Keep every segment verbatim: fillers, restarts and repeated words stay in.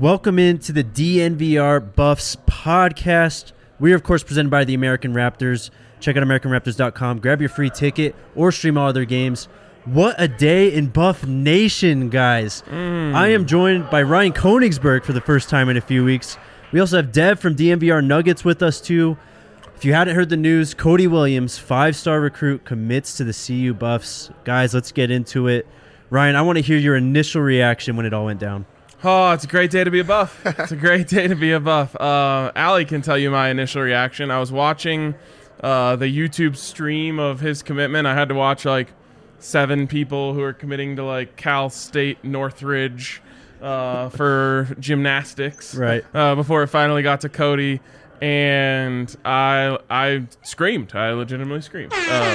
Welcome into the D N V R Buffs podcast. We are, of course, presented by the American Raptors. Check out American Raptors dot com. Grab your free ticket or stream all other games. What a day in Buff Nation, guys. Mm. I am joined by Ryan Koenigsberg for the first time in a few weeks. We also have Dev from D N V R Nuggets with us, too. If you hadn't heard the news, Cody Williams, five-star recruit, commits to the C U Buffs. Guys, let's get into it. Ryan, I want to hear your initial reaction when it all went down. Oh, it's a great day to be a Buff. It's a great day to be a Buff. Uh, Allie can tell you my initial reaction. I was watching uh, the YouTube stream of his commitment. I had to watch like seven people who are committing to like Cal State Northridge uh, for gymnastics. Right. Uh, before it finally got to Cody. And I I screamed. I legitimately screamed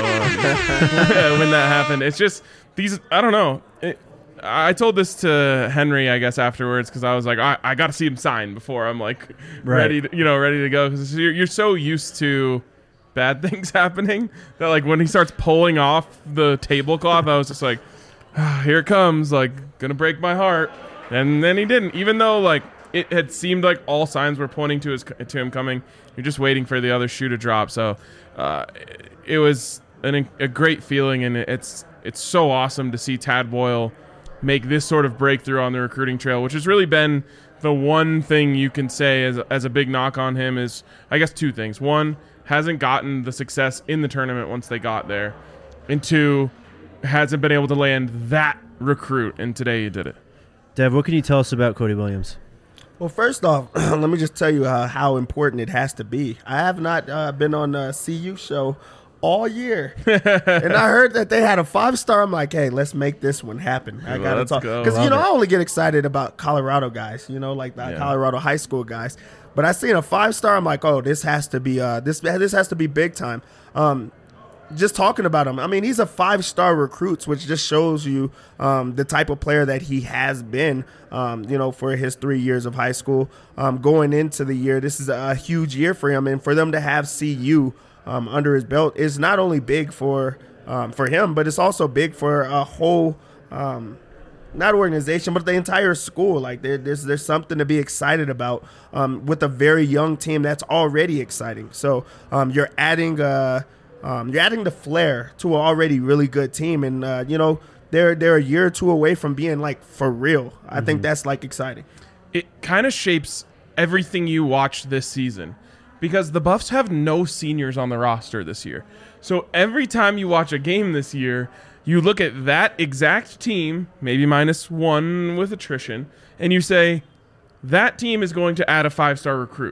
uh, when that happened. It's just these, I don't know. It, I told this to Henry, I guess, afterwards, because I was like, I, I got to see him sign before I'm like right. ready, to, you know, ready to go. Because you're, you're so used to bad things happening that like when he starts pulling off the tablecloth, I was just like, ah, here it comes, like gonna break my heart. And then he didn't, even though like it had seemed like all signs were pointing to his to him coming. You're just waiting for the other shoe to drop. So uh, it was an, a great feeling, and it's it's so awesome to see Tad Boyle make this sort of breakthrough on the recruiting trail, which has really been the one thing you can say as, as a big knock on him is, I guess, two things. One, hasn't gotten the success in the tournament once they got there. And two, hasn't been able to land that recruit, and today he did it. Dev, what can you tell us about Cody Williams? Well, first off, let me just tell you uh, how important it has to be. I have not uh, been on a C U show all year, and I heard that they had a five-star. I'm like, hey, let's make this one happen. I gotta Let's talk go. because you know it. I only get excited about Colorado guys, you know, like the Yeah. Colorado high school guys. But I seen a five-star. I'm like, oh, this has to be uh, this this has to be big time. Um, just talking about him, I mean, he's a five-star recruit, which just shows you um, the type of player that he has been, um, you know, for his three years of high school. Um, going into the year, this is a huge year for him, and for them to have C U um, under his belt is not only big for um, for him, but it's also big for a whole, um, not organization, but the entire school. Like there, there's there's something to be excited about um, with a very young team that's already exciting. So um, you're adding uh Um, you're adding the flair to an already really good team, and uh, you know they're they're a year or two away from being like for real. I mm-hmm. think that's like exciting. It kind of shapes everything you watch this season because the Buffs have no seniors on the roster this year. So every time you watch a game this year, you look at that exact team, maybe minus one with attrition, and you say that team is going to add a five-star recruit,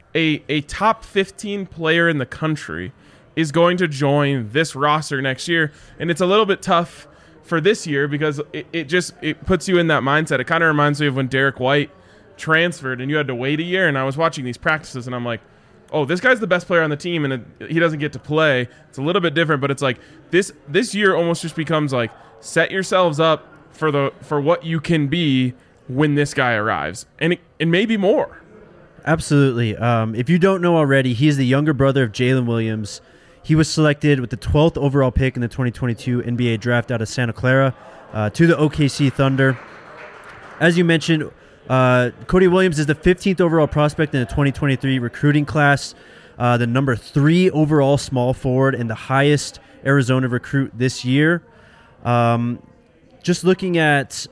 a a top fifteen player in the country is going to join this roster next year. And it's a little bit tough for this year because it, it just it puts you in that mindset. It kind of reminds me of when Derek White transferred and you had to wait a year. And I was watching these practices and I'm like, oh, this guy's the best player on the team and it, he doesn't get to play. It's a little bit different, but it's like this this year almost just becomes like set yourselves up for the for what you can be when this guy arrives. And, it, and maybe more. Absolutely. Um, if you don't know already, he's the younger brother of Jalen Williams. He was selected with the twelfth overall pick in the twenty twenty-two N B A draft out of Santa Clara uh, to the O K C Thunder. As you mentioned, uh, Cody Williams is the fifteenth overall prospect in the twenty twenty-three recruiting class, uh, the number three overall small forward and the highest Arizona recruit this year. Um, just looking at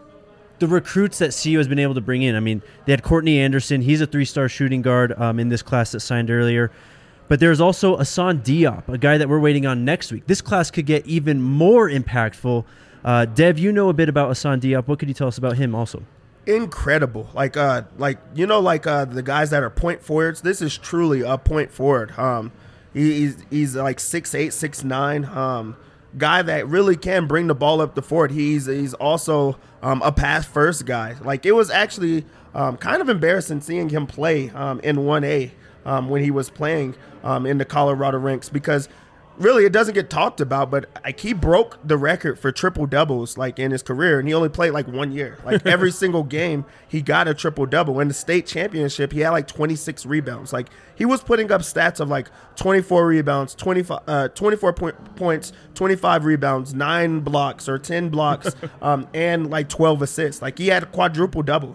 the recruits that C U has been able to bring in, I mean, they had Courtney Anderson. He's a three-star shooting guard um, in this class that signed earlier. But there's also Hassan Diop, a guy that we're waiting on next week. This class could get even more impactful. Uh, Dev, you know a bit about Hassan Diop. What could you tell us about him also? Incredible. Like, uh, like you know, like uh, the guys that are point forwards, this is truly a point forward. Um, he, he's, he's like six eight, six nine, um, guy that really can bring the ball up the court. He's, he's also um, a pass-first guy. Like, it was actually um, kind of embarrassing seeing him play um, in one A. Um, when he was playing um, in the Colorado ranks because really it doesn't get talked about, but like he broke the record for triple doubles like in his career, and he only played like one year. Like every single game he got a triple double. In the state championship he had like twenty-six rebounds. Like he was putting up stats of like twenty-four rebounds, twenty-five, uh, twenty-four point, points, twenty-five rebounds, nine blocks or ten blocks, um, and like twelve assists. Like he had quadruple doubles.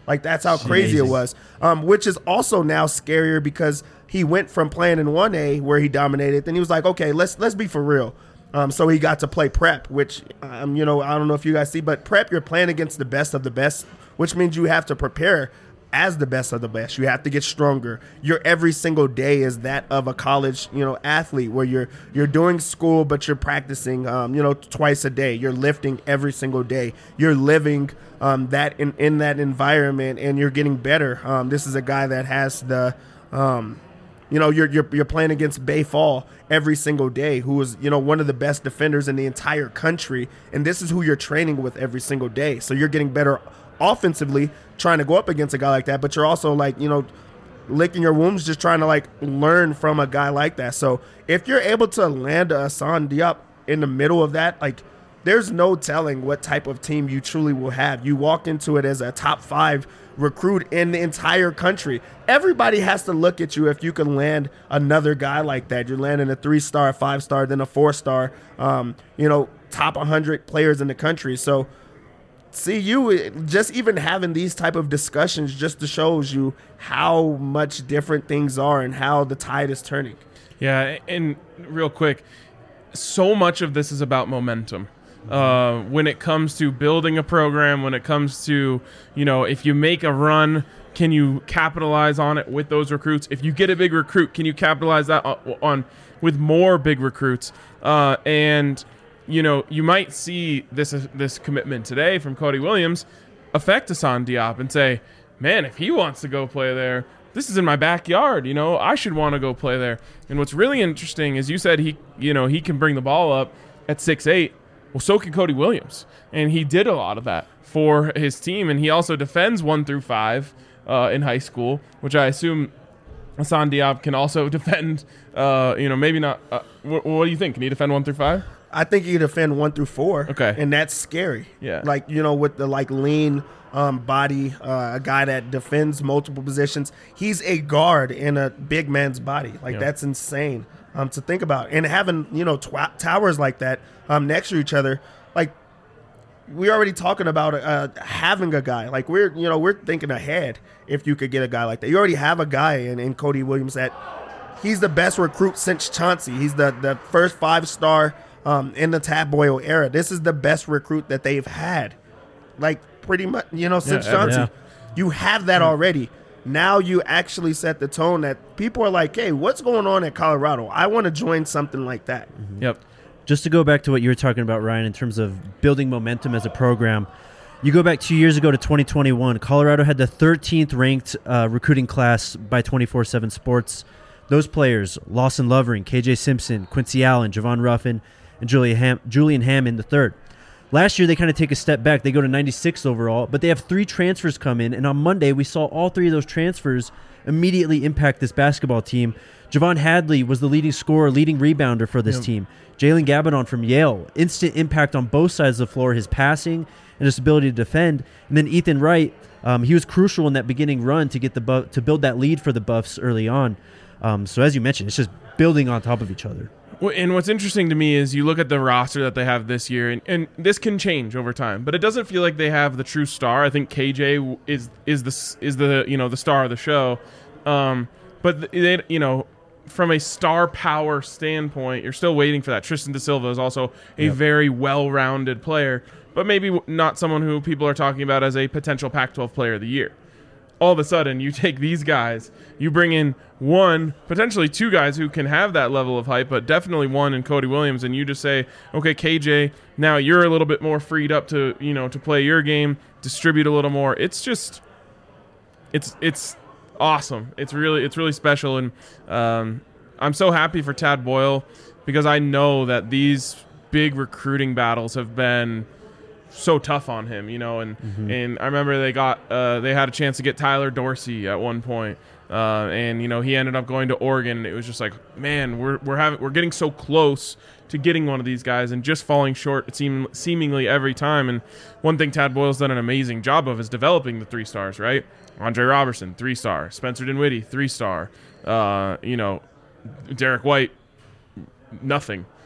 Like, that's how crazy it was, um, which is also now scarier because he went from playing in one A where he dominated. Then he was like, okay, let's let's be for real. Um, so he got to play prep, which, um, you know, I don't know if you guys see, but prep, you're playing against the best of the best, which means you have to prepare as the best of the best. You have to get stronger. Your every single day is that of a college, you know, athlete where you're you're doing school, but you're practicing, um, you know, twice a day. You're lifting every single day. You're living um, that in, in that environment, and you're getting better. Um, this is a guy that has the, um, you know, you're, you're you're playing against Bay Fall every single day, who is, you know, one of the best defenders in the entire country, and this is who you're training with every single day. So you're getting better offensively trying to go up against a guy like that, but you're also, like, you know, licking your wounds just trying to, like, learn from a guy like that. So if you're able to land a Hassan Diop in the middle of that, like, there's no telling what type of team you truly will have. You walk into it as a top five recruit in the entire country. Everybody has to look at you if you can land another guy like that. You're landing a three-star, five-star, then a four-star, um, you know, top one hundred players in the country. So see, you just even having these type of discussions just shows you how much different things are and how the tide is turning. Yeah, and real quick, so much of this is about momentum. Uh, when it comes to building a program, when it comes to, you know, if you make a run, can you capitalize on it with those recruits? If you get a big recruit, can you capitalize that on, on with more big recruits? Uh, and you know, you might see this this commitment today from Cody Williams affect Hassan Diop and say, man, if he wants to go play there, this is in my backyard. You know, I should want to go play there. And what's really interesting is you said he, you know, he can bring the ball up at six eight. Well, so can Cody Williams. And he did a lot of that for his team. And he also defends one through five uh, in high school, which I assume Hassan Diop can also defend, uh, you know, maybe not. Uh, wh- what do you think? Can he defend one through five? I think he can defend one through four. Okay. And that's scary. Yeah. Like, you know, with the, like, lean um, body, uh, a guy that defends multiple positions. He's a guard in a big man's body. Like, Yeah. that's insane um, to think about. And having, you know, tw- towers like that um, next to each other, like, we're already talking about uh, having a guy. Like, we're, you know, we're thinking ahead if you could get a guy like that. You already have a guy in, in Cody Williams that he's the best recruit since Chauncey. He's the, the first five-star Um, in the Tad Boyle era. This is the best recruit that they've had, like, pretty much, you know, since Yeah, Chauncey. yeah. You have that already. Now you actually set the tone that people are like, hey, what's going on at Colorado? I want to join something like that. Yep. Just to go back to what you were talking about, Ryan, in terms of building momentum as a program, you go back two years ago to twenty twenty-one. Colorado had the thirteenth ranked uh, recruiting class by twenty-four seven Sports. Those players, Lawson Lovering, K J Simpson, Quincy Allen, Javon Ruffin, and Julian, Ham- Julian Hammond the third. Last year, they kind of take a step back. They go to ninety-six overall, but they have three transfers come in, and on Monday, we saw all three of those transfers immediately impact this basketball team. Javon Hadley was the leading scorer, leading rebounder for this Yep. team. Jalen Gabadon from Yale, instant impact on both sides of the floor, his passing and his ability to defend. And then Ethan Wright, um, he was crucial in that beginning run to get the bu- to build that lead for the Buffs early on. Um, so as you mentioned, it's just building on top of each other. Well, and what's interesting to me is you look at the roster that they have this year, and, and this can change over time, but it doesn't feel like they have the true star. I think K J is is the is the you know the star of the show, um, but they you know from a star power standpoint, you're still waiting for that. Tristan Da Silva is also a Yep. very well-rounded player, but maybe not someone who people are talking about as a potential Pac twelve player of the year. All of a sudden, you take these guys, you bring in one, potentially two guys who can have that level of hype, but definitely one in Cody Williams, and you just say, okay, K J, now you're a little bit more freed up to, you know, to play your game, distribute a little more. It's just, it's it's awesome. It's really it's really special, and um, I'm so happy for Tad Boyle because I know that these big recruiting battles have been so tough on him, you know, and Mm-hmm. and I remember they got uh, they had a chance to get Tyler Dorsey at one point, uh, and you know he ended up going to Oregon. And it was just like, man, we're we're having we're getting so close to getting one of these guys and just falling short. It seem seemingly every time. And one thing Tad Boyle's done an amazing job of is developing the three stars, right? Andre Robertson, three star. Spencer Dinwiddie, three star. Uh, you know, Derek White, nothing.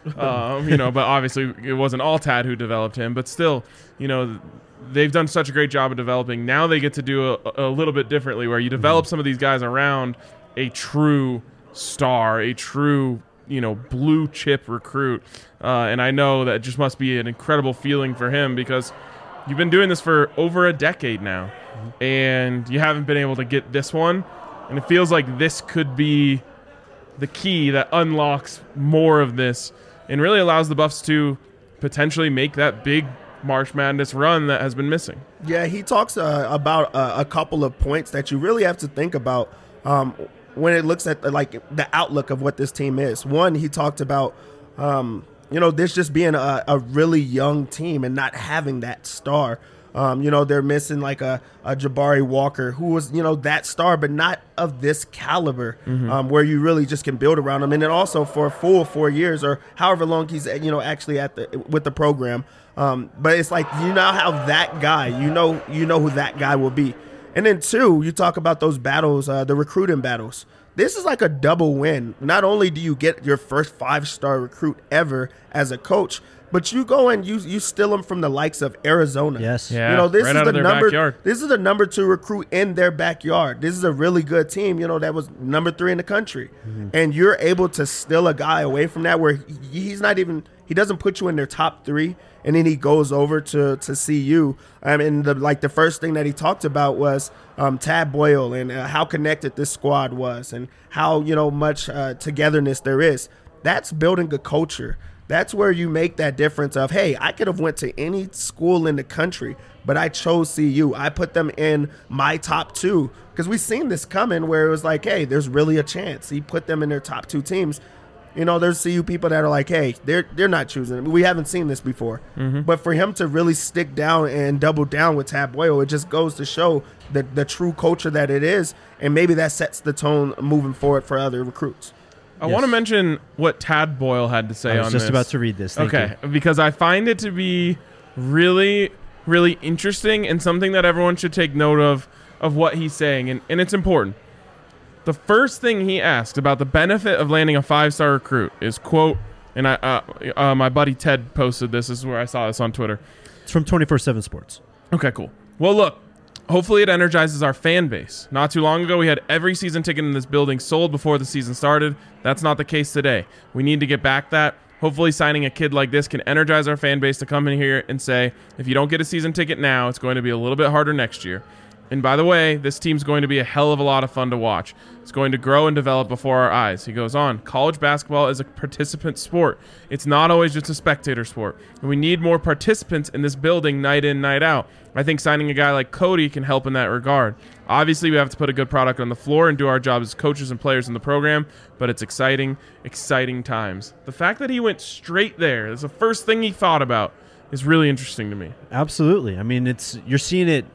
um, you know, but obviously it wasn't all Tad who developed him. But still, you know, they've done such a great job of developing. Now they get to do a, a little bit differently, where you develop mm-hmm. some of these guys around a true star, a true, you know, blue chip recruit. Uh, and I know that just must be an incredible feeling for him, because you've been doing this for over a decade now, mm-hmm. and you haven't been able to get this one. And it feels like this could be the key that unlocks more of this and really allows the Buffs to potentially make that big March Madness run that has been missing. Yeah, he talks uh, about uh, a couple of points that you really have to think about um, when it looks at the, like the outlook of what this team is. One, he talked about um, you know, this just being a, a really young team and not having that star. Um, you know, they're missing like a, a Jabari Walker, who was, you know, that star, but not of this caliber, mm-hmm. um, where you really just can build around him. And then also for a full four years or however long he's, you know, actually at the with the program. Um, but it's like, you now have that guy, you know, you know who that guy will be. And then two, you talk about those battles, uh, the recruiting battles. This is like a double win. Not only do you get your first five-star recruit ever as a coach, but you go and you you steal them from the likes of Arizona. Yes, yeah, you know this right is out the of their number. Backyard. This is the number two recruit in their backyard. This is a really good team. You know that was number three in the country, mm-hmm. and you're able to steal a guy away from that where he, he's not even. He doesn't put you in their top three, and then he goes over to to C U. I mean, the, like the first thing that he talked about was um, Tad Boyle and uh, how connected this squad was, and how you know much uh, togetherness there is. That's building a culture. That's where you make that difference of, hey, I could have went to any school in the country, but I chose C U. I put them in my top two because we've seen this coming where it was like, hey, there's really a chance. He put them in their top two teams. You know, there's C U people that are like, hey, they're they're not choosing him. We haven't seen this before. Mm-hmm. But for him to really stick down and double down with Tad Boyle, it just goes to show the, the true culture that it is, and maybe that sets the tone moving forward for other recruits. I Yes. want to mention what Tad Boyle had to say on I was this. just about to read this. Thank okay, you. because I find it to be really, really interesting and something that everyone should take note of, of what he's saying, and, and it's important. The first thing he asked about the benefit of landing a five-star recruit is, quote, and I, uh, uh, my buddy Ted posted this. This is where I saw this on Twitter. It's from twenty-four seven Sports. Okay, cool. Well, look, hopefully it energizes our fan base. Not too long ago, we had every season ticket in this building sold before the season started. That's not the case today. We need to get back that. Hopefully signing a kid like this can energize our fan base to come in here and say, if you don't get a season ticket now, it's going to be a little bit harder next year. And by the way, this team's going to be a hell of a lot of fun to watch. It's going to grow and develop before our eyes. He goes on, college basketball is a participant sport. It's not always just a spectator sport. And we need more participants in this building night in, night out. I think signing a guy like Cody can help in that regard. Obviously, we have to put a good product on the floor and do our job as coaches and players in the program, but it's exciting, exciting times. The fact that he went straight there, that's the first thing he thought about, is really interesting to me. Absolutely. I mean, it's you're seeing it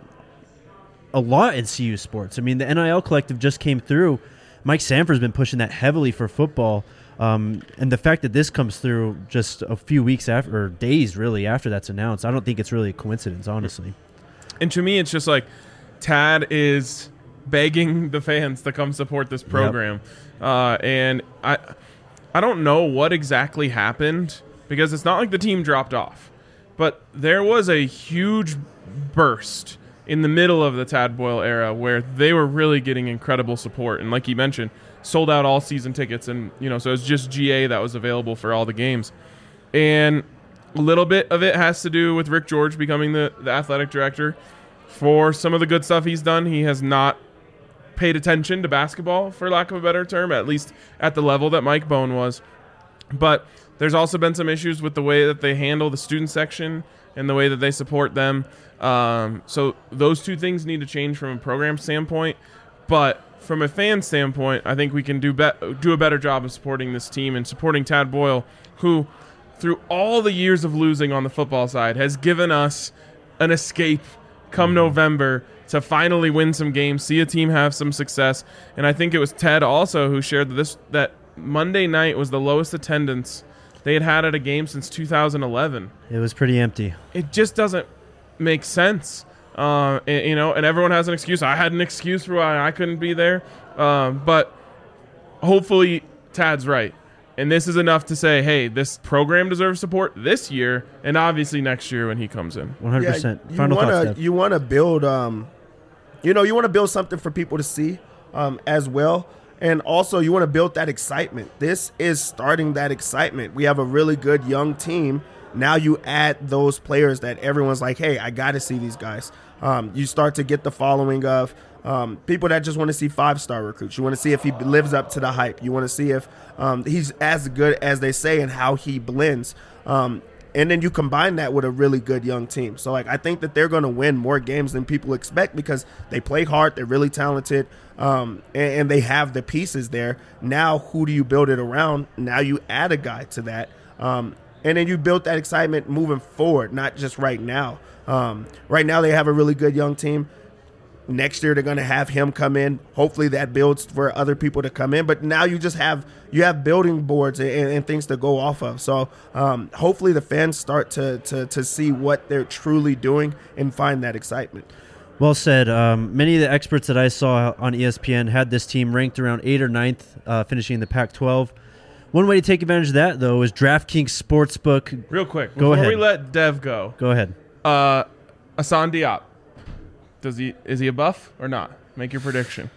a lot in C U sports. I mean, the N I L collective just came through. Mike Sanford's been pushing that heavily for football. Um, and the fact that this comes through just a few weeks after, or days really after that's announced, I don't think it's really a coincidence, honestly. And to me, it's just like Tad is begging the fans to come support this program. Yep. Uh, and I, I don't know what exactly happened, because it's not like the team dropped off. But there was a huge burst in the middle of the Tad Boyle era where they were really getting incredible support. And like you mentioned, sold out all season tickets. And, you know, so it's just G A that was available for all the games. And a little bit of it has to do with Rick George becoming the, the athletic director. For some of the good stuff he's done, he has not paid attention to basketball, for lack of a better term, at least at the level that Mike Bone was. But there's also been some issues with the way that they handle the student section and the way that they support them. Um, so those two things need to change from a program standpoint. But from a fan standpoint, I think we can do be- do a better job of supporting this team and supporting Tad Boyle, who, through all the years of losing on the football side, has given us an escape come November to finally win some games, see a team have some success. And I think it was Ted also who shared this, that Monday night was the lowest attendance they had had at a game since two thousand eleven. It was pretty empty. It just doesn't make sense. Uh, and, you know, and everyone has an excuse. I had an excuse for why I couldn't be there. Um, but hopefully Tad's right. And this is enough to say, hey, this program deserves support this year and obviously next year when he comes in. one hundred percent. Yeah, you Final wanna, thoughts, Steph. You want to build, um, you know, you want to build something for people to see um, as well. And also you want to build that excitement. This is starting that excitement. We have a really good young team. Now you add those players that everyone's like, hey, I got to see these guys. Um, you start to get the following of um, people that just want to see five-star recruits. You want to see if he lives up to the hype. You want to see if um, he's as good as they say and how he blends. Um, and then you combine that with a really good young team. So, like, I think that they're going to win more games than people expect because they play hard. They're really talented, um, and, and they have the pieces there. Now, who do you build it around? Now you add a guy to that. Um, and then you build that excitement moving forward, not just right now. Um, right now they have a really good young team. Next year they're going to have him come in. Hopefully that builds for other people to come in. But now you just have you have building boards and, and things to go off of. So um, hopefully the fans start to, to to see what they're truly doing and find that excitement. Well said. Um, many of the experts that I saw on E S P N had this team ranked around eighth or ninth, uh, finishing in the Pac twelve. One way to take advantage of that, though, is DraftKings Sportsbook. Real quick, go before ahead. we let Dev go, Go ahead. uh, Hassan Diop, does he is he a buff or not? Make your prediction.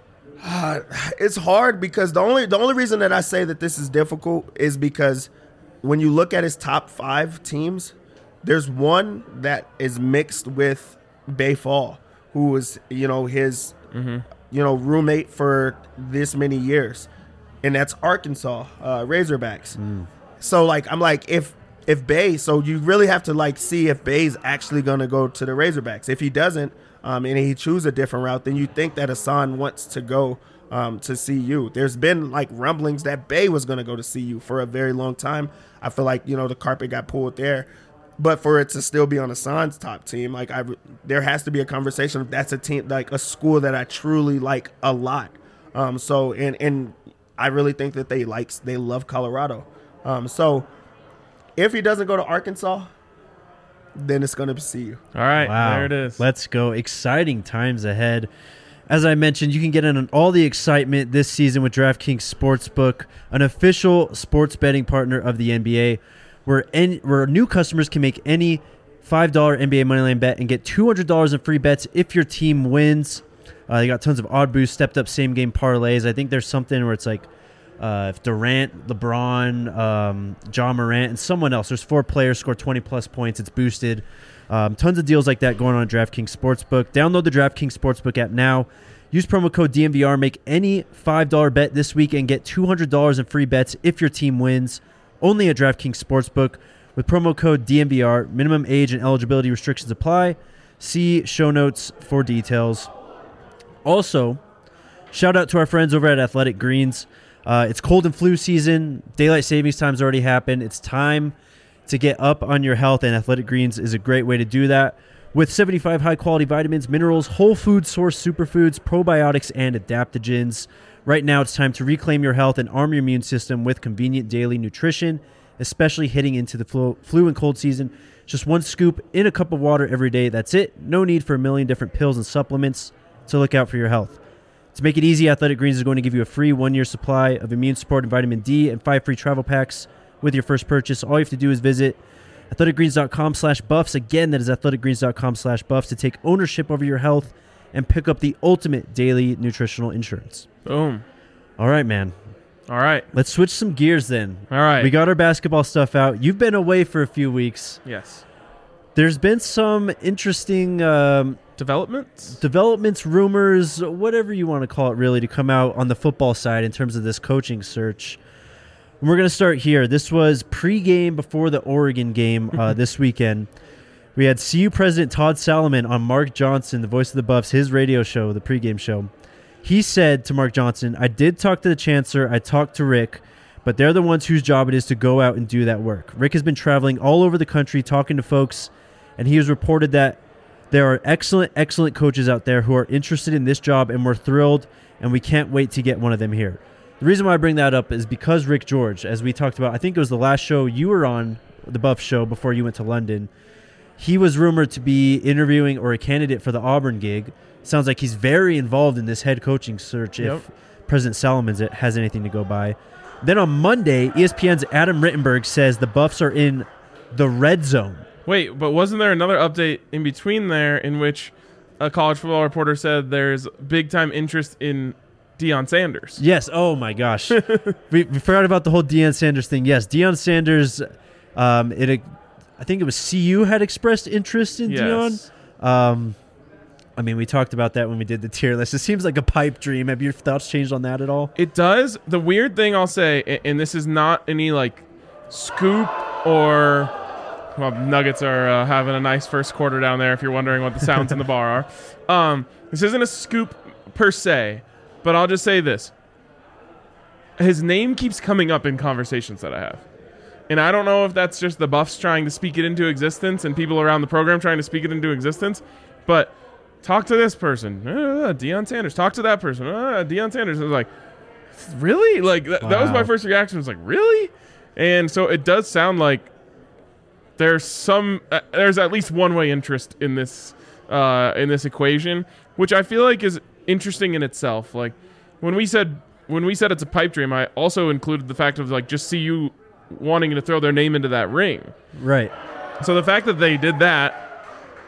Uh, it's hard because the only the only reason that I say that this is difficult is because when you look at his top five teams, there's one that is mixed with Bay Fall, who was you know his Mm-hmm. you know roommate for this many years, and that's Arkansas uh, Razorbacks. Mm. So like I'm like if if Bay, so you really have to like see if Bay's actually going to go to the Razorbacks. If he doesn't, um, and he chooses a different route, then you think that Hassan wants to go um, to C U. There's been like rumblings that Bay was going to go to C U for a very long time. I feel like you know the carpet got pulled there, but for it to still be on Hassan's top team, like I, there has to be a conversation if that's a team like a school that I truly like a lot. Um, so and and I really think that they like they love Colorado. Um, so. If he doesn't go to Arkansas, then it's going to be C U. All right, Wow. there it is. Let's go. Exciting times ahead. As I mentioned, you can get in on all the excitement this season with DraftKings Sportsbook, an official sports betting partner of the N B A, where, any, where new customers can make any five dollar N B A Moneyline bet and get two hundred dollars in free bets if your team wins. Uh, they got tons of odd boosts, stepped up same game parlays. I think there's something where it's like Uh, if Durant, LeBron, um, John Morant, and someone else, there's four players score twenty plus points, it's boosted. Um, tons of deals like that going on at DraftKings Sportsbook. Download the DraftKings Sportsbook app now. Use promo code D M V R. Make any five dollar bet this week and get two hundred dollars in free bets if your team wins. Only at DraftKings Sportsbook with promo code D M V R. Minimum age and eligibility restrictions apply. See show notes for details. Also, shout out to our friends over at Athletic Greens. Uh, it's cold and flu season. Daylight savings time's already happened. It's time to get up on your health, and Athletic Greens is a great way to do that. With seventy-five high-quality vitamins, minerals, whole food source superfoods, probiotics, and adaptogens. Right now, it's time to reclaim your health and arm your immune system with convenient daily nutrition, especially heading into the flu, flu and cold season. Just one scoop in a cup of water every day. That's it. No need for a million different pills and supplements to look out for your health. To make it easy, Athletic Greens is going to give you a free one-year supply of immune support and vitamin D and five free travel packs with your first purchase. All you have to do is visit athleticgreens.com slash buffs. Again, that is athleticgreens.com slash buffs to take ownership over your health and pick up the ultimate daily nutritional insurance. Boom. All right, man. All right. Let's switch some gears then. All right. We got our basketball stuff out. You've been away for a few weeks. Yes. There's been some interesting um, Developments? developments, rumors, whatever you want to call it, really, to come out on the football side in terms of this coaching search. And we're going to start here. This was pregame before the Oregon game uh, this weekend. We had C U President Todd Salomon on Mark Johnson, the voice of the Buffs, his radio show, the pregame show. He said to Mark Johnson, I did talk to the chancellor, I talked to Rick, but they're the ones whose job it is to go out and do that work. Rick has been traveling all over the country talking to folks, and he has reported that there are excellent, excellent coaches out there who are interested in this job, and we're thrilled, and we can't wait to get one of them here. The reason why I bring that up is because Rick George, as we talked about, I think it was the last show you were on, the Buff show, before you went to London. He was rumored to be interviewing or a candidate for the Auburn gig. Sounds like he's very involved in this head coaching search if Yep. President Salomon has anything to go by. Then on Monday, E S P N's Adam Rittenberg says the Buffs are in the red zone. Wait, but wasn't there another update in between there in which a college football reporter said there's big-time interest in Deion Sanders? Yes. Oh, my gosh. we, we forgot about the whole Deion Sanders thing. Yes, Deion Sanders, um, it, I think it was C U had expressed interest in Yes. Deion. Um, I mean, we talked about that when we did the tier list. It seems like a pipe dream. Have your thoughts changed on that at all? It does. The weird thing I'll say, a- and this is not any like scoop or well, Nuggets are uh, having a nice first quarter down there. If you're wondering what the sounds in the bar are, um, this isn't a scoop per se, but I'll just say this: his name keeps coming up in conversations that I have, and I don't know if that's just the Buffs trying to speak it into existence and people around the program trying to speak it into existence, but. Talk to this person, uh, Deion Sanders. Talk to that person, uh, Deion Sanders. I was like, really? Like th- wow. that was my first reaction. I was like, really? And so it does sound like there's some, uh, there's at least one way interest in this, uh, in this equation, which I feel like is interesting in itself. Like when we said when we said it's a pipe dream, I also included the fact of like just see you wanting to throw their name into that ring. Right. So the fact that they did that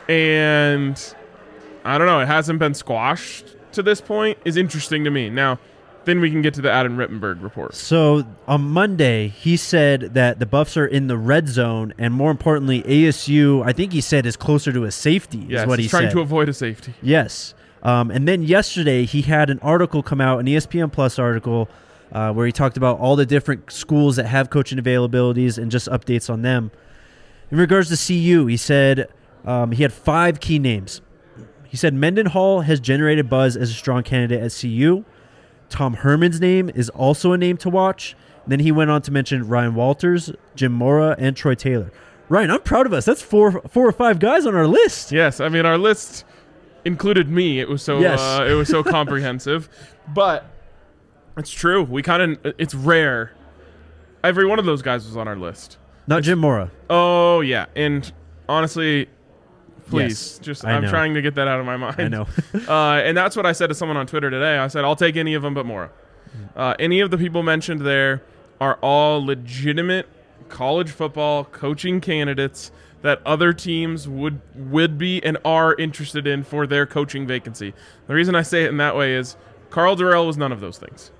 and I don't know, it hasn't been squashed to this point is interesting to me. Now, then we can get to the Adam Rittenberg report. So on Monday, he said that the Buffs are in the red zone, and more importantly, A S U, I think he said, is closer to a safety, Yes, is what he he's trying said. to avoid a safety. Yes. Um, and then yesterday, he had an article come out, an E S P N Plus article, uh, where he talked about all the different schools that have coaching availabilities and just updates on them. In regards to C U, he said um, he had five key names. He said Mendenhall has generated buzz as a strong candidate at C U. Tom Herman's name is also a name to watch. And then he went on to mention Ryan Walters, Jim Mora, and Troy Taylor. Ryan, I'm proud of us. That's four, four or five guys on our list. Yes, I mean our list included me. It was so Yes. uh, it was so comprehensive, but it's true. We kind of it's rare. Every one of those guys was on our list. Not Jim Mora. Oh yeah, and honestly. Please, Yes, just I I'm know. trying to get that out of my mind. I know. uh, and that's what I said to someone on Twitter today. I said, I'll take any of them but Mora. Uh, any of the people mentioned there are all legitimate college football coaching candidates that other teams would would be and are interested in for their coaching vacancy. The reason I say it in that way is Carl Durrell was none of those things.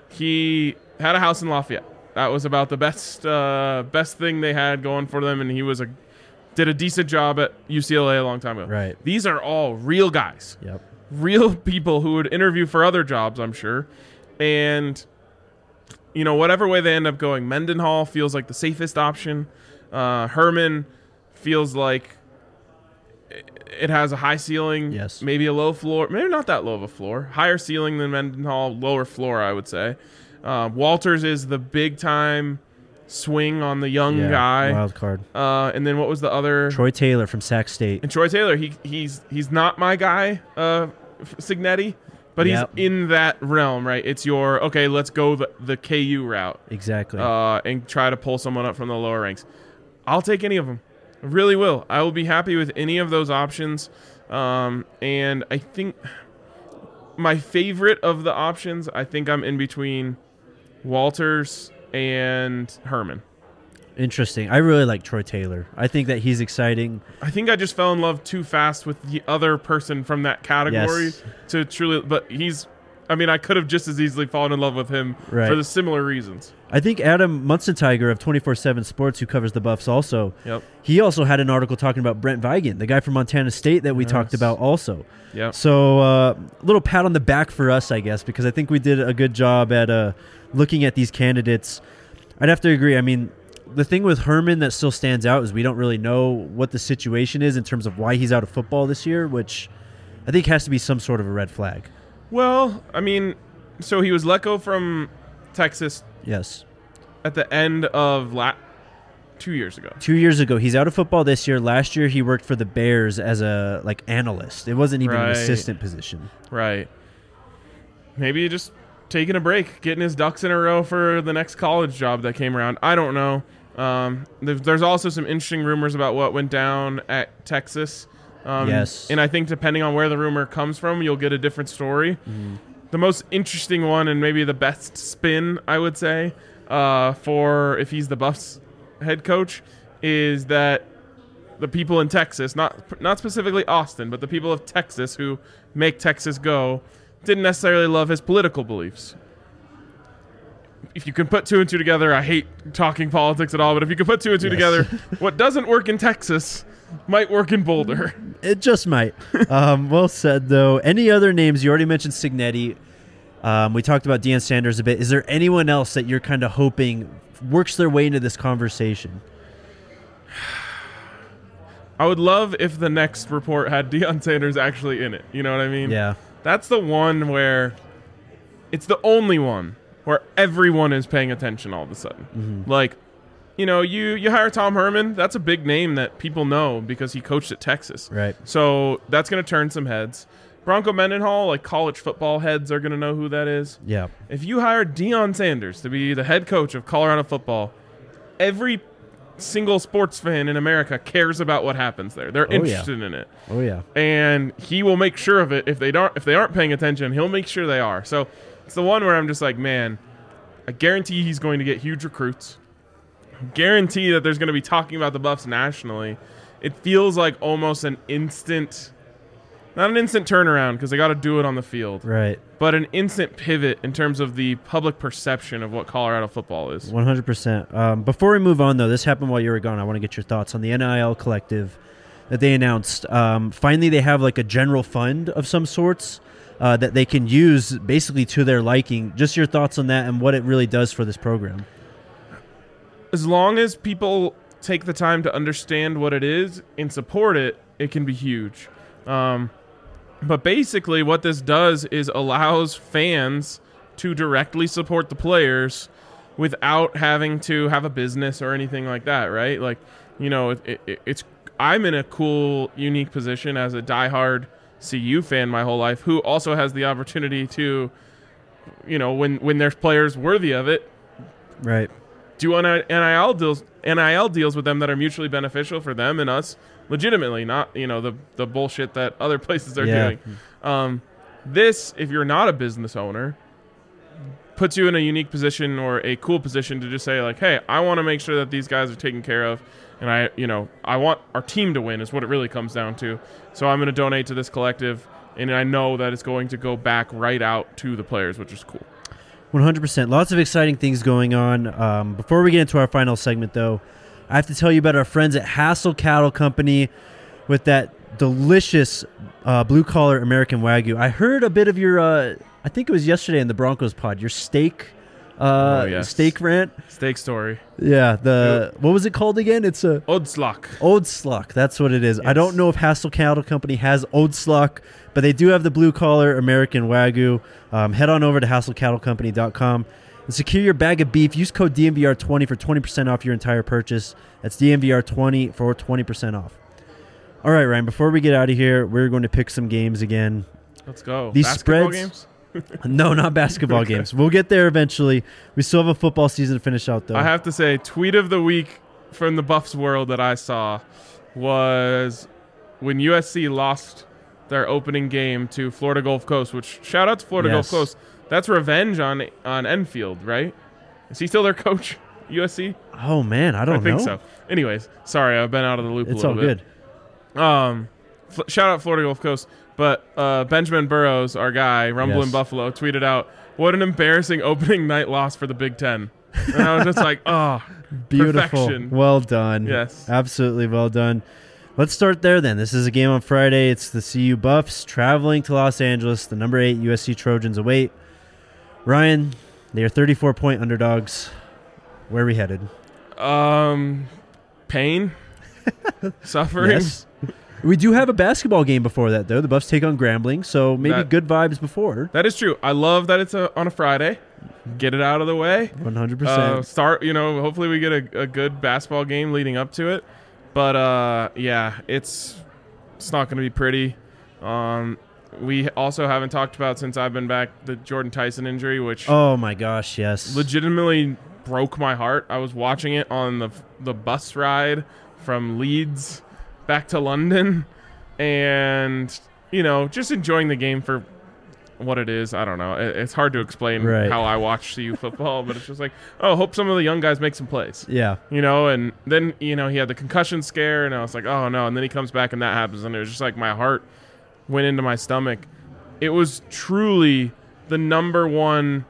He had a house in Lafayette. That was about the best uh, best thing they had going for them, and he was a did a decent job at U C L A a long time ago. Right. These are all real guys. Yep. Real people who would interview for other jobs, I'm sure. And, you know, whatever way they end up going, Mendenhall feels like the safest option. Uh, Herman feels like it has a high ceiling, Yes. maybe a low floor. Maybe not that low of a floor. Higher ceiling than Mendenhall, lower floor, I would say. Uh, Walters is the big-time swing on the young Yeah, guy. wild card. Uh, and then what was the other? Troy Taylor from Sac State. And Troy Taylor, he he's he's not my guy, uh, Signetti, but Yep. he's in that realm, right? It's your okay. Let's go the, the K U route, Exactly. uh, and try to pull someone up from the lower ranks. I'll take any of them. I really will. I will be happy with any of those options. Um, and I think my favorite of the options, I think I'm in between Walters and Herman. Interesting. I really like Troy Taylor. I think that he's exciting. I think I just fell in love too fast with the other person from that category Yes. to truly. But he's, I mean, I could have just as easily fallen in love with him Right. for the similar reasons. I think Adam Munstentiger of twenty-four seven Sports, who covers the Buffs also, Yep. he also had an article talking about Brent Vigen, the guy from Montana State that we Yes. talked about also. Yep. So a uh, little pat on the back for us, I guess, because I think we did a good job at uh, looking at these candidates. I'd have to agree. I mean, the thing with Herman that still stands out is we don't really know what the situation is in terms of why he's out of football this year, which I think has to be some sort of a red flag. Well, I mean, so he was let go from Texas Yes. at the end of la- two years ago. Two years ago, he's out of football this year. Last year, he worked for the Bears as a like analyst. It wasn't even an Right. assistant position. Right. Maybe just taking a break, getting his ducks in a row for the next college job that came around. I don't know. Um, there's, there's also some interesting rumors about what went down at Texas. Um, Yes. And I think depending on where the rumor comes from, you'll get a different story. The most interesting one and maybe the best spin, I would say, uh, for if he's the Buffs head coach is that the people in Texas, not not specifically Austin, but the people of Texas who make Texas go, didn't necessarily love his political beliefs. If you can put two and two together, I hate talking politics at all, but if you can put two and two Yes. together, what doesn't work in Texas might work in Boulder. It just might. um, well said, though. Any other names? You already mentioned Signetti. Um, we talked about Deion Sanders a bit. Is there anyone else that you're kind of hoping works their way into this conversation? I would love if the next report had Deion Sanders actually in it. You know what I mean? Yeah. That's the one where it's the only one where everyone is paying attention all of a sudden. Mm-hmm. Like, you know, you, you hire Tom Herman, that's a big name that people know because he coached at Texas. Right. So that's going to turn some heads. Bronco Mendenhall, like college football heads are going to know who that is. Yeah. If you hire Deion Sanders to be the head coach of Colorado football, every single sports fan in America cares about what happens there. They're Oh, yeah. interested in it. Oh, yeah. And he will make sure of it. If they don't, if they aren't paying attention, he'll make sure they are. So it's the one where I'm just like, man, I guarantee he's going to get huge recruits. Guarantee that there's going to be talking about the Buffs nationally. It feels like almost an instant, not an instant turnaround because they got to do it on the field, Right. but an instant pivot in terms of the public perception of what Colorado football is. one hundred percent. Um, before we move on, though, this happened while you were gone. I want to get your thoughts on the N I L collective that they announced. Um, finally, they have like a general fund of some sorts uh, that they can use basically to their liking. Just your thoughts on that and what it really does for this program. As long as people take the time to understand what it is and support it, it can be huge. Um, but basically what this does is allows fans to directly support the players without having to have a business or anything like that, right? Like, you know, it, it, it's I'm in a cool, unique position as a diehard C U fan my whole life who also has the opportunity to, you know, when, when there's players worthy of it, Right. do N I L deals N I L deals with them that are mutually beneficial for them and us legitimately, not, you know, the the bullshit that other places are Yeah. doing. Um, this, if you're not a business owner, puts you in a unique position or a cool position to just say like, hey, I want to make sure that these guys are taken care of, and I, you know, I want our team to win is what it really comes down to. So I'm going to donate to this collective, and I know that it's going to go back right out to the players, which is cool. one hundred percent. Lots of exciting things going on. Um, before we get into our final segment, though, I have to tell you about our friends at Hassel Cattle Company with that delicious uh, blue-collar American Wagyu. I heard a bit of your, uh, I think it was yesterday in the Broncos pod, your steak uh, Oh, yes. steak rant. Steak story. Yeah, the what was it called again? It's a Odslok. Odsluk. That's what it is. I Yes. don't know if Hassel Cattle Company has Odsluk, but they do have the blue-collar American Wagyu. Um, head on over to hassel cattle company dot com and secure your bag of beef. Use code D M V R twenty for twenty percent off your entire purchase. That's D M V R twenty for twenty percent off. All right, Ryan, before we get out of here, we're going to pick some games again. Let's go. These Basketball spreads- games? No, not basketball games. We'll get there eventually. We still have a football season to finish out, though. I have to say, tweet of the week from the Buffs world that I saw was when U S C lost their opening game to Florida Gulf Coast, which shout out to Florida Yes. Gulf Coast. That's revenge on on Enfield, right? Is he still their coach, U S C? Oh, man, I don't I think know. so. Anyways, sorry, I've been out of the loop It's a all little good. bit. Um, f- shout out Florida Gulf Coast. But uh, Benjamin Burrows, our guy, Rumble Yes. in Buffalo, tweeted out, "What an embarrassing opening night loss for the Big Ten." And I was just like, oh, Beautiful. perfection. Well done. Yes. Absolutely well done. Let's start there then. This is a game on Friday. It's the C U Buffs traveling to Los Angeles. The number eight U S C Trojans await. Ryan, they are thirty-four point underdogs. Where are we headed? Um, pain, suffering. Yes. We do have a basketball game before that, though. The Buffs take on Grambling, so maybe That- good vibes before. That is true. I love that it's a, on a Friday. Get it out of the way. one hundred Uh, percent. start, you know, hopefully we get a, a good basketball game leading up to it. But, uh, yeah, it's it's not going to be pretty. Um, we also haven't talked about, since I've been back, the Jordan Tyson injury, which Oh, my gosh, yes. legitimately broke my heart. I was watching it on the the bus ride from Leeds back to London, and you know, just enjoying the game for what it is. I don't know. It, it's hard to explain Right. how I watch C U football, but it's just like, oh, hope some of the young guys make some plays. Yeah. You know, and then, you know, he had the concussion scare, and I was like, oh, no. And then he comes back, and that happens, and it was just like my heart went into my stomach. It was truly the number one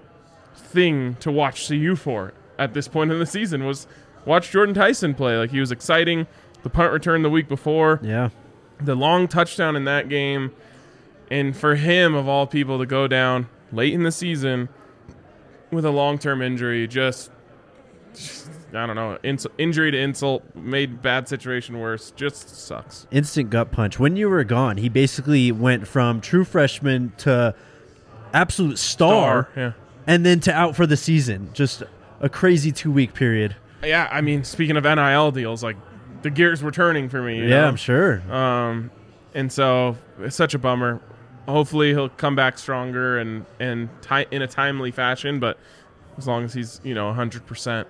thing to watch C U for at this point in the season was watch Jordan Tyson play. Like, he was exciting. The punt return the week before. Yeah. The long touchdown in that game. And for him, of all people, to go down late in the season with a long-term injury, just, just I don't know, ins- injury to insult, made bad situation worse, just sucks. Instant gut punch. When you were gone, he basically went from true freshman to absolute star, Star, yeah. and then to out for the season. Just a crazy two-week period. Yeah, I mean, speaking of N I L deals, like, the gears were turning for me. You Yeah, know? I'm sure. Um, and so it's such a bummer. Hopefully he'll come back stronger and and ti- in a timely fashion. But as long as he's you know one hundred percent,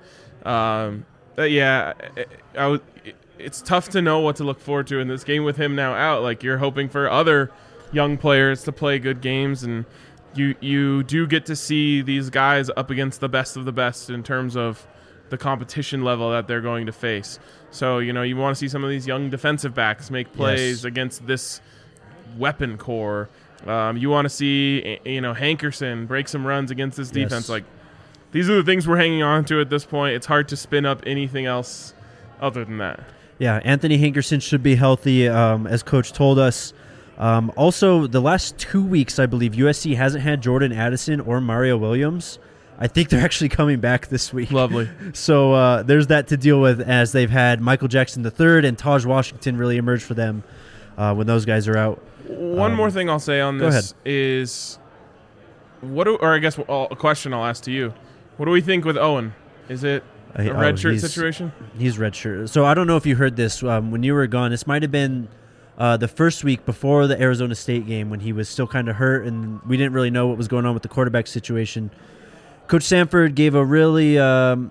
um, but yeah, I, I w- it's tough to know what to look forward to in this game with him now out. Like you're hoping for other young players to play good games, and you you do get to see these guys up against the best of the best in terms of the competition level that they're going to face. So, you know, you want to see some of these young defensive backs make plays Yes. against this weapon core. Um, you want to see, you know, Hankerson break some runs against this defense. Yes. Like, these are the things we're hanging on to at this point. It's hard to spin up anything else other than that. Yeah, Anthony Hankerson should be healthy, um, as Coach told us. Um, also, the last two weeks, I believe, U S C hasn't had Jordan Addison or Mario Williams. I think they're actually coming back this week. Lovely. So uh, there's that to deal with, as they've had Michael Jackson the third and Taj Washington really emerge for them uh, when those guys are out. One Um, more thing I'll say on go this is, what do, or I guess uh, a question I'll ask to you. What do we think with Owen? Is it Uh, a oh, red shirt he's- situation? He's redshirt. So I don't know if you heard this um, when you were gone. This might have been uh, the first week before the Arizona State game when he was still kind of hurt and we didn't really know what was going on with the quarterback situation. Coach Sanford gave a really um,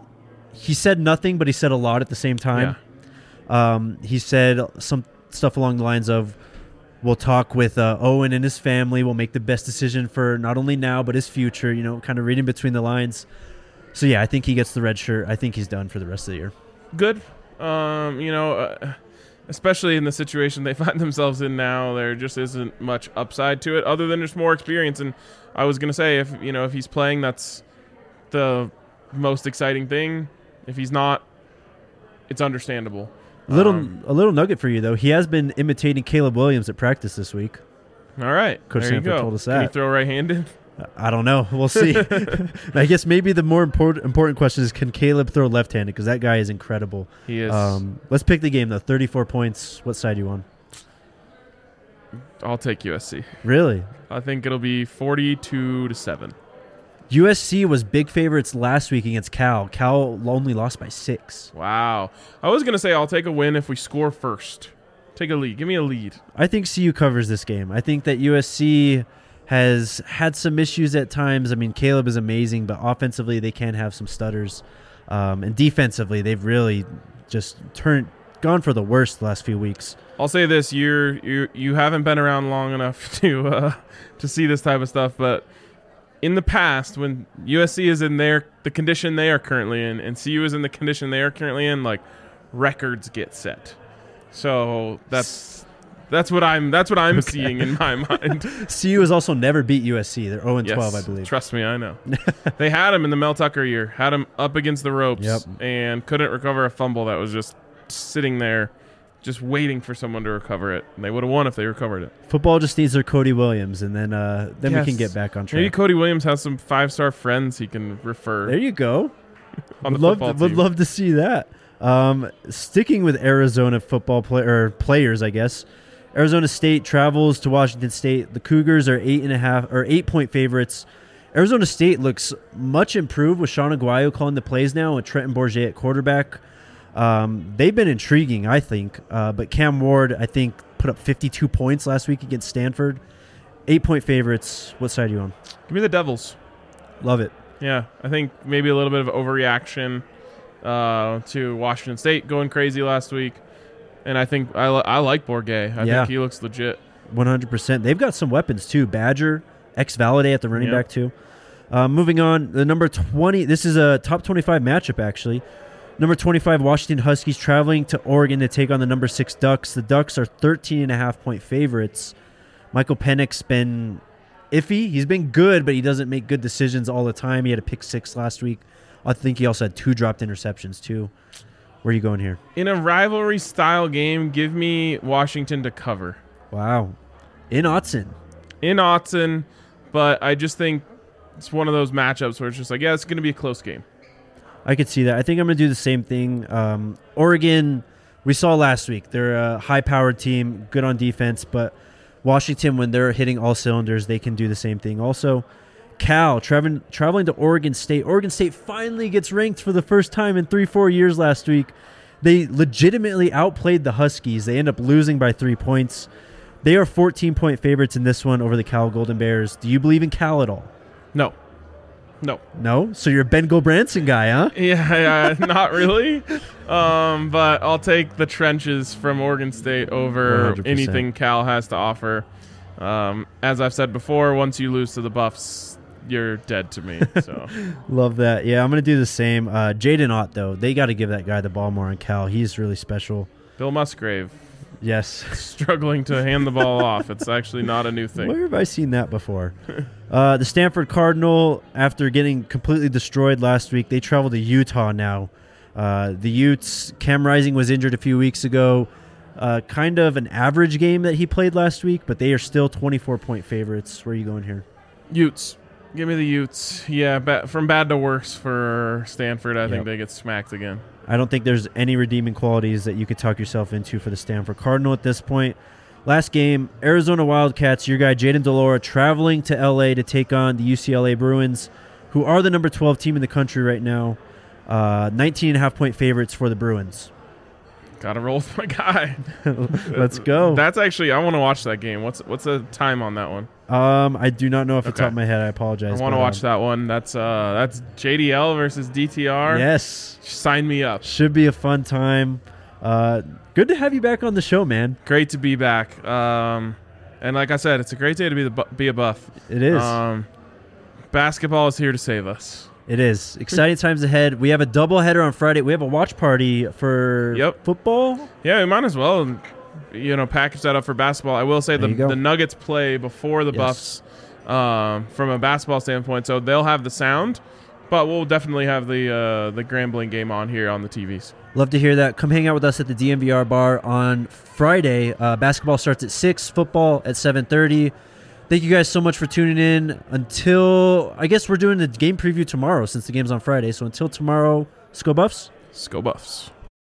– he said nothing, but he said a lot at the same time. Um, he said some stuff along the lines of, we'll talk with uh, Owen and his family. We'll make the best decision for not only now but his future, you know, kind of reading between the lines. So, yeah, I think he gets the red shirt. I think he's done for the rest of the year. Good. Um, you know, uh, especially in the situation they find themselves in now, there just isn't much upside to it other than just more experience. And I was going to say, if you know, if he's playing, that's the most exciting thing. If he's not, it's understandable. A little, Um, a little nugget for you though. He has been imitating Caleb Williams at practice this week. All right. Coach there you Sanford go. told us Can he that. throw right-handed? I don't know. We'll see. I guess maybe the more important important question is, can Caleb throw left-handed? Because that guy is incredible. He is. Um, let's pick the game though. thirty-four points. What side are you on? I'll take U S C. Really? I think it'll be forty-two to seven. U S C was big favorites last week against Cal. Cal only lost by six. Wow. I was going to say I'll take a win if we score first. Take a lead. Give me a lead. I think C U covers this game. I think that U S C has had some issues at times. I mean, Caleb is amazing, but offensively they can have some stutters. Um, and defensively, they've really just turned gone for the worst the last few weeks. I'll say this: you're you you haven't been around long enough to uh, to see this type of stuff. But in the past, when U S C is in their the condition they are currently in, and C U is in the condition they are currently in, like records get set. So that's that's what I'm that's what I'm Okay. seeing in my mind. C U has also never beat U S C. They're oh and twelve, I Yes, believe. Trust me, I know. They had him in the Mel Tucker year, had him up against the ropes, Yep. and couldn't recover a fumble that was just sitting there, just waiting for someone to recover it. And they would have won if they recovered it. Football just needs their Cody Williams, and then uh, then we Yes. can get back on track. Maybe Cody Williams has some five-star friends he can refer There you go. on the would love football to, would team. love to see that. Um, sticking with Arizona football play, or players, I guess. Arizona State travels to Washington State. The Cougars are eight and a half or eight point favorites. Arizona State looks much improved with Sean Aguayo calling the plays now and Trenton Bourget at quarterback. Um, they've been intriguing, I think. Uh, but Cam Ward, I think, put up fifty-two points last week against Stanford. Eight point favorites. What side are you on? Give me the Devils. Love it. Yeah, I think maybe a little bit of overreaction uh, to Washington State going crazy last week. And I think I, li- I like Bourget. I Yeah. think he looks legit. one hundred percent. They've got some weapons, too. Badger, Ex-Valade at the running Yep. back too. Uh, moving on, the number twenty. This is a top twenty-five matchup actually. Number twenty-five, Washington Huskies traveling to Oregon to take on the number six Ducks. The Ducks are thirteen and a half point favorites. Michael Penix's been iffy. He's been good, but he doesn't make good decisions all the time. He had a pick six last week. I think he also had two dropped interceptions too. Where are you going here? In a rivalry style game, give me Washington to cover. Wow. In Autzen. In Autzen, but I just think it's one of those matchups where it's just like, yeah, it's going to be a close game. I could see that. I think I'm going to do the same thing. Um, Oregon, we saw last week. They're a high-powered team, good on defense, but Washington, when they're hitting all cylinders, they can do the same thing. Also, Cal, traveling, traveling to Oregon State. Oregon State finally gets ranked for the first time in three, four years last week. They legitimately outplayed the Huskies. They end up losing by three points. They are fourteen-point favorites in this one over the Cal Golden Bears. Do you believe in Cal at all? No. No. No? So you're a Ben Gobranson guy, huh? Yeah, yeah not really. Um, but I'll take the trenches from Oregon State over one hundred percent. anything Cal has to offer. Um, as I've said before, once you lose to the Buffs, you're dead to me. So Love that. Yeah, I'm going to do the same. Uh, Jaden Ott, though, they got to give that guy the ball more on Cal. He's really special. Bill Musgrave Yes. struggling to hand the ball off. It's actually not a new thing. Where have I seen that before? uh, the Stanford Cardinal, after getting completely destroyed last week, they travel to Utah now. Uh, the Utes, Cam Rising was injured a few weeks ago. Uh, kind of an average game that he played last week, but they are still twenty-four point favorites. Where are you going here? Utes. Give me the Utes. Yeah, ba- from bad to worse for Stanford. I Yep. think they get smacked again. I don't think there's any redeeming qualities that you could talk yourself into for the Stanford Cardinal at this point. Last game, Arizona Wildcats, your guy Jaden Delora traveling to L A to take on the U C L A Bruins, who are the number twelve team in the country right now. Uh, nineteen and a half point favorites for the Bruins. Gotta roll with my guy. Let's go. That's actually, I want to watch that game. What's what's the time on that one? Um, I do not know off the Okay. top of my head. I apologize. I want to but, watch um, that one. That's uh, that's J D L versus D T R. Yes. Sign me up. Should be a fun time. Uh, good to have you back on the show, man. Great to be back. Um, and like I said, it's a great day to be the bu- be a Buff. It is. Um, basketball is here to save us. It is. Exciting times ahead. We have a doubleheader on Friday. We have a watch party for Yep. football. Yeah, we might as well, you know, package that up for basketball. I will say There the you go. the Nuggets play before the Yes. Buffs, um, from a basketball standpoint, so they'll have the sound, but we'll definitely have the uh, the Grambling game on here on the T Vs. Love to hear that. Come hang out with us at the D M V R bar on Friday. Uh, basketball starts at six, football at seven thirty. Thank you guys so much for tuning in. Until, I guess we're doing the game preview tomorrow since the game's on Friday. So until tomorrow, let's go Buffs. Let's go Buffs.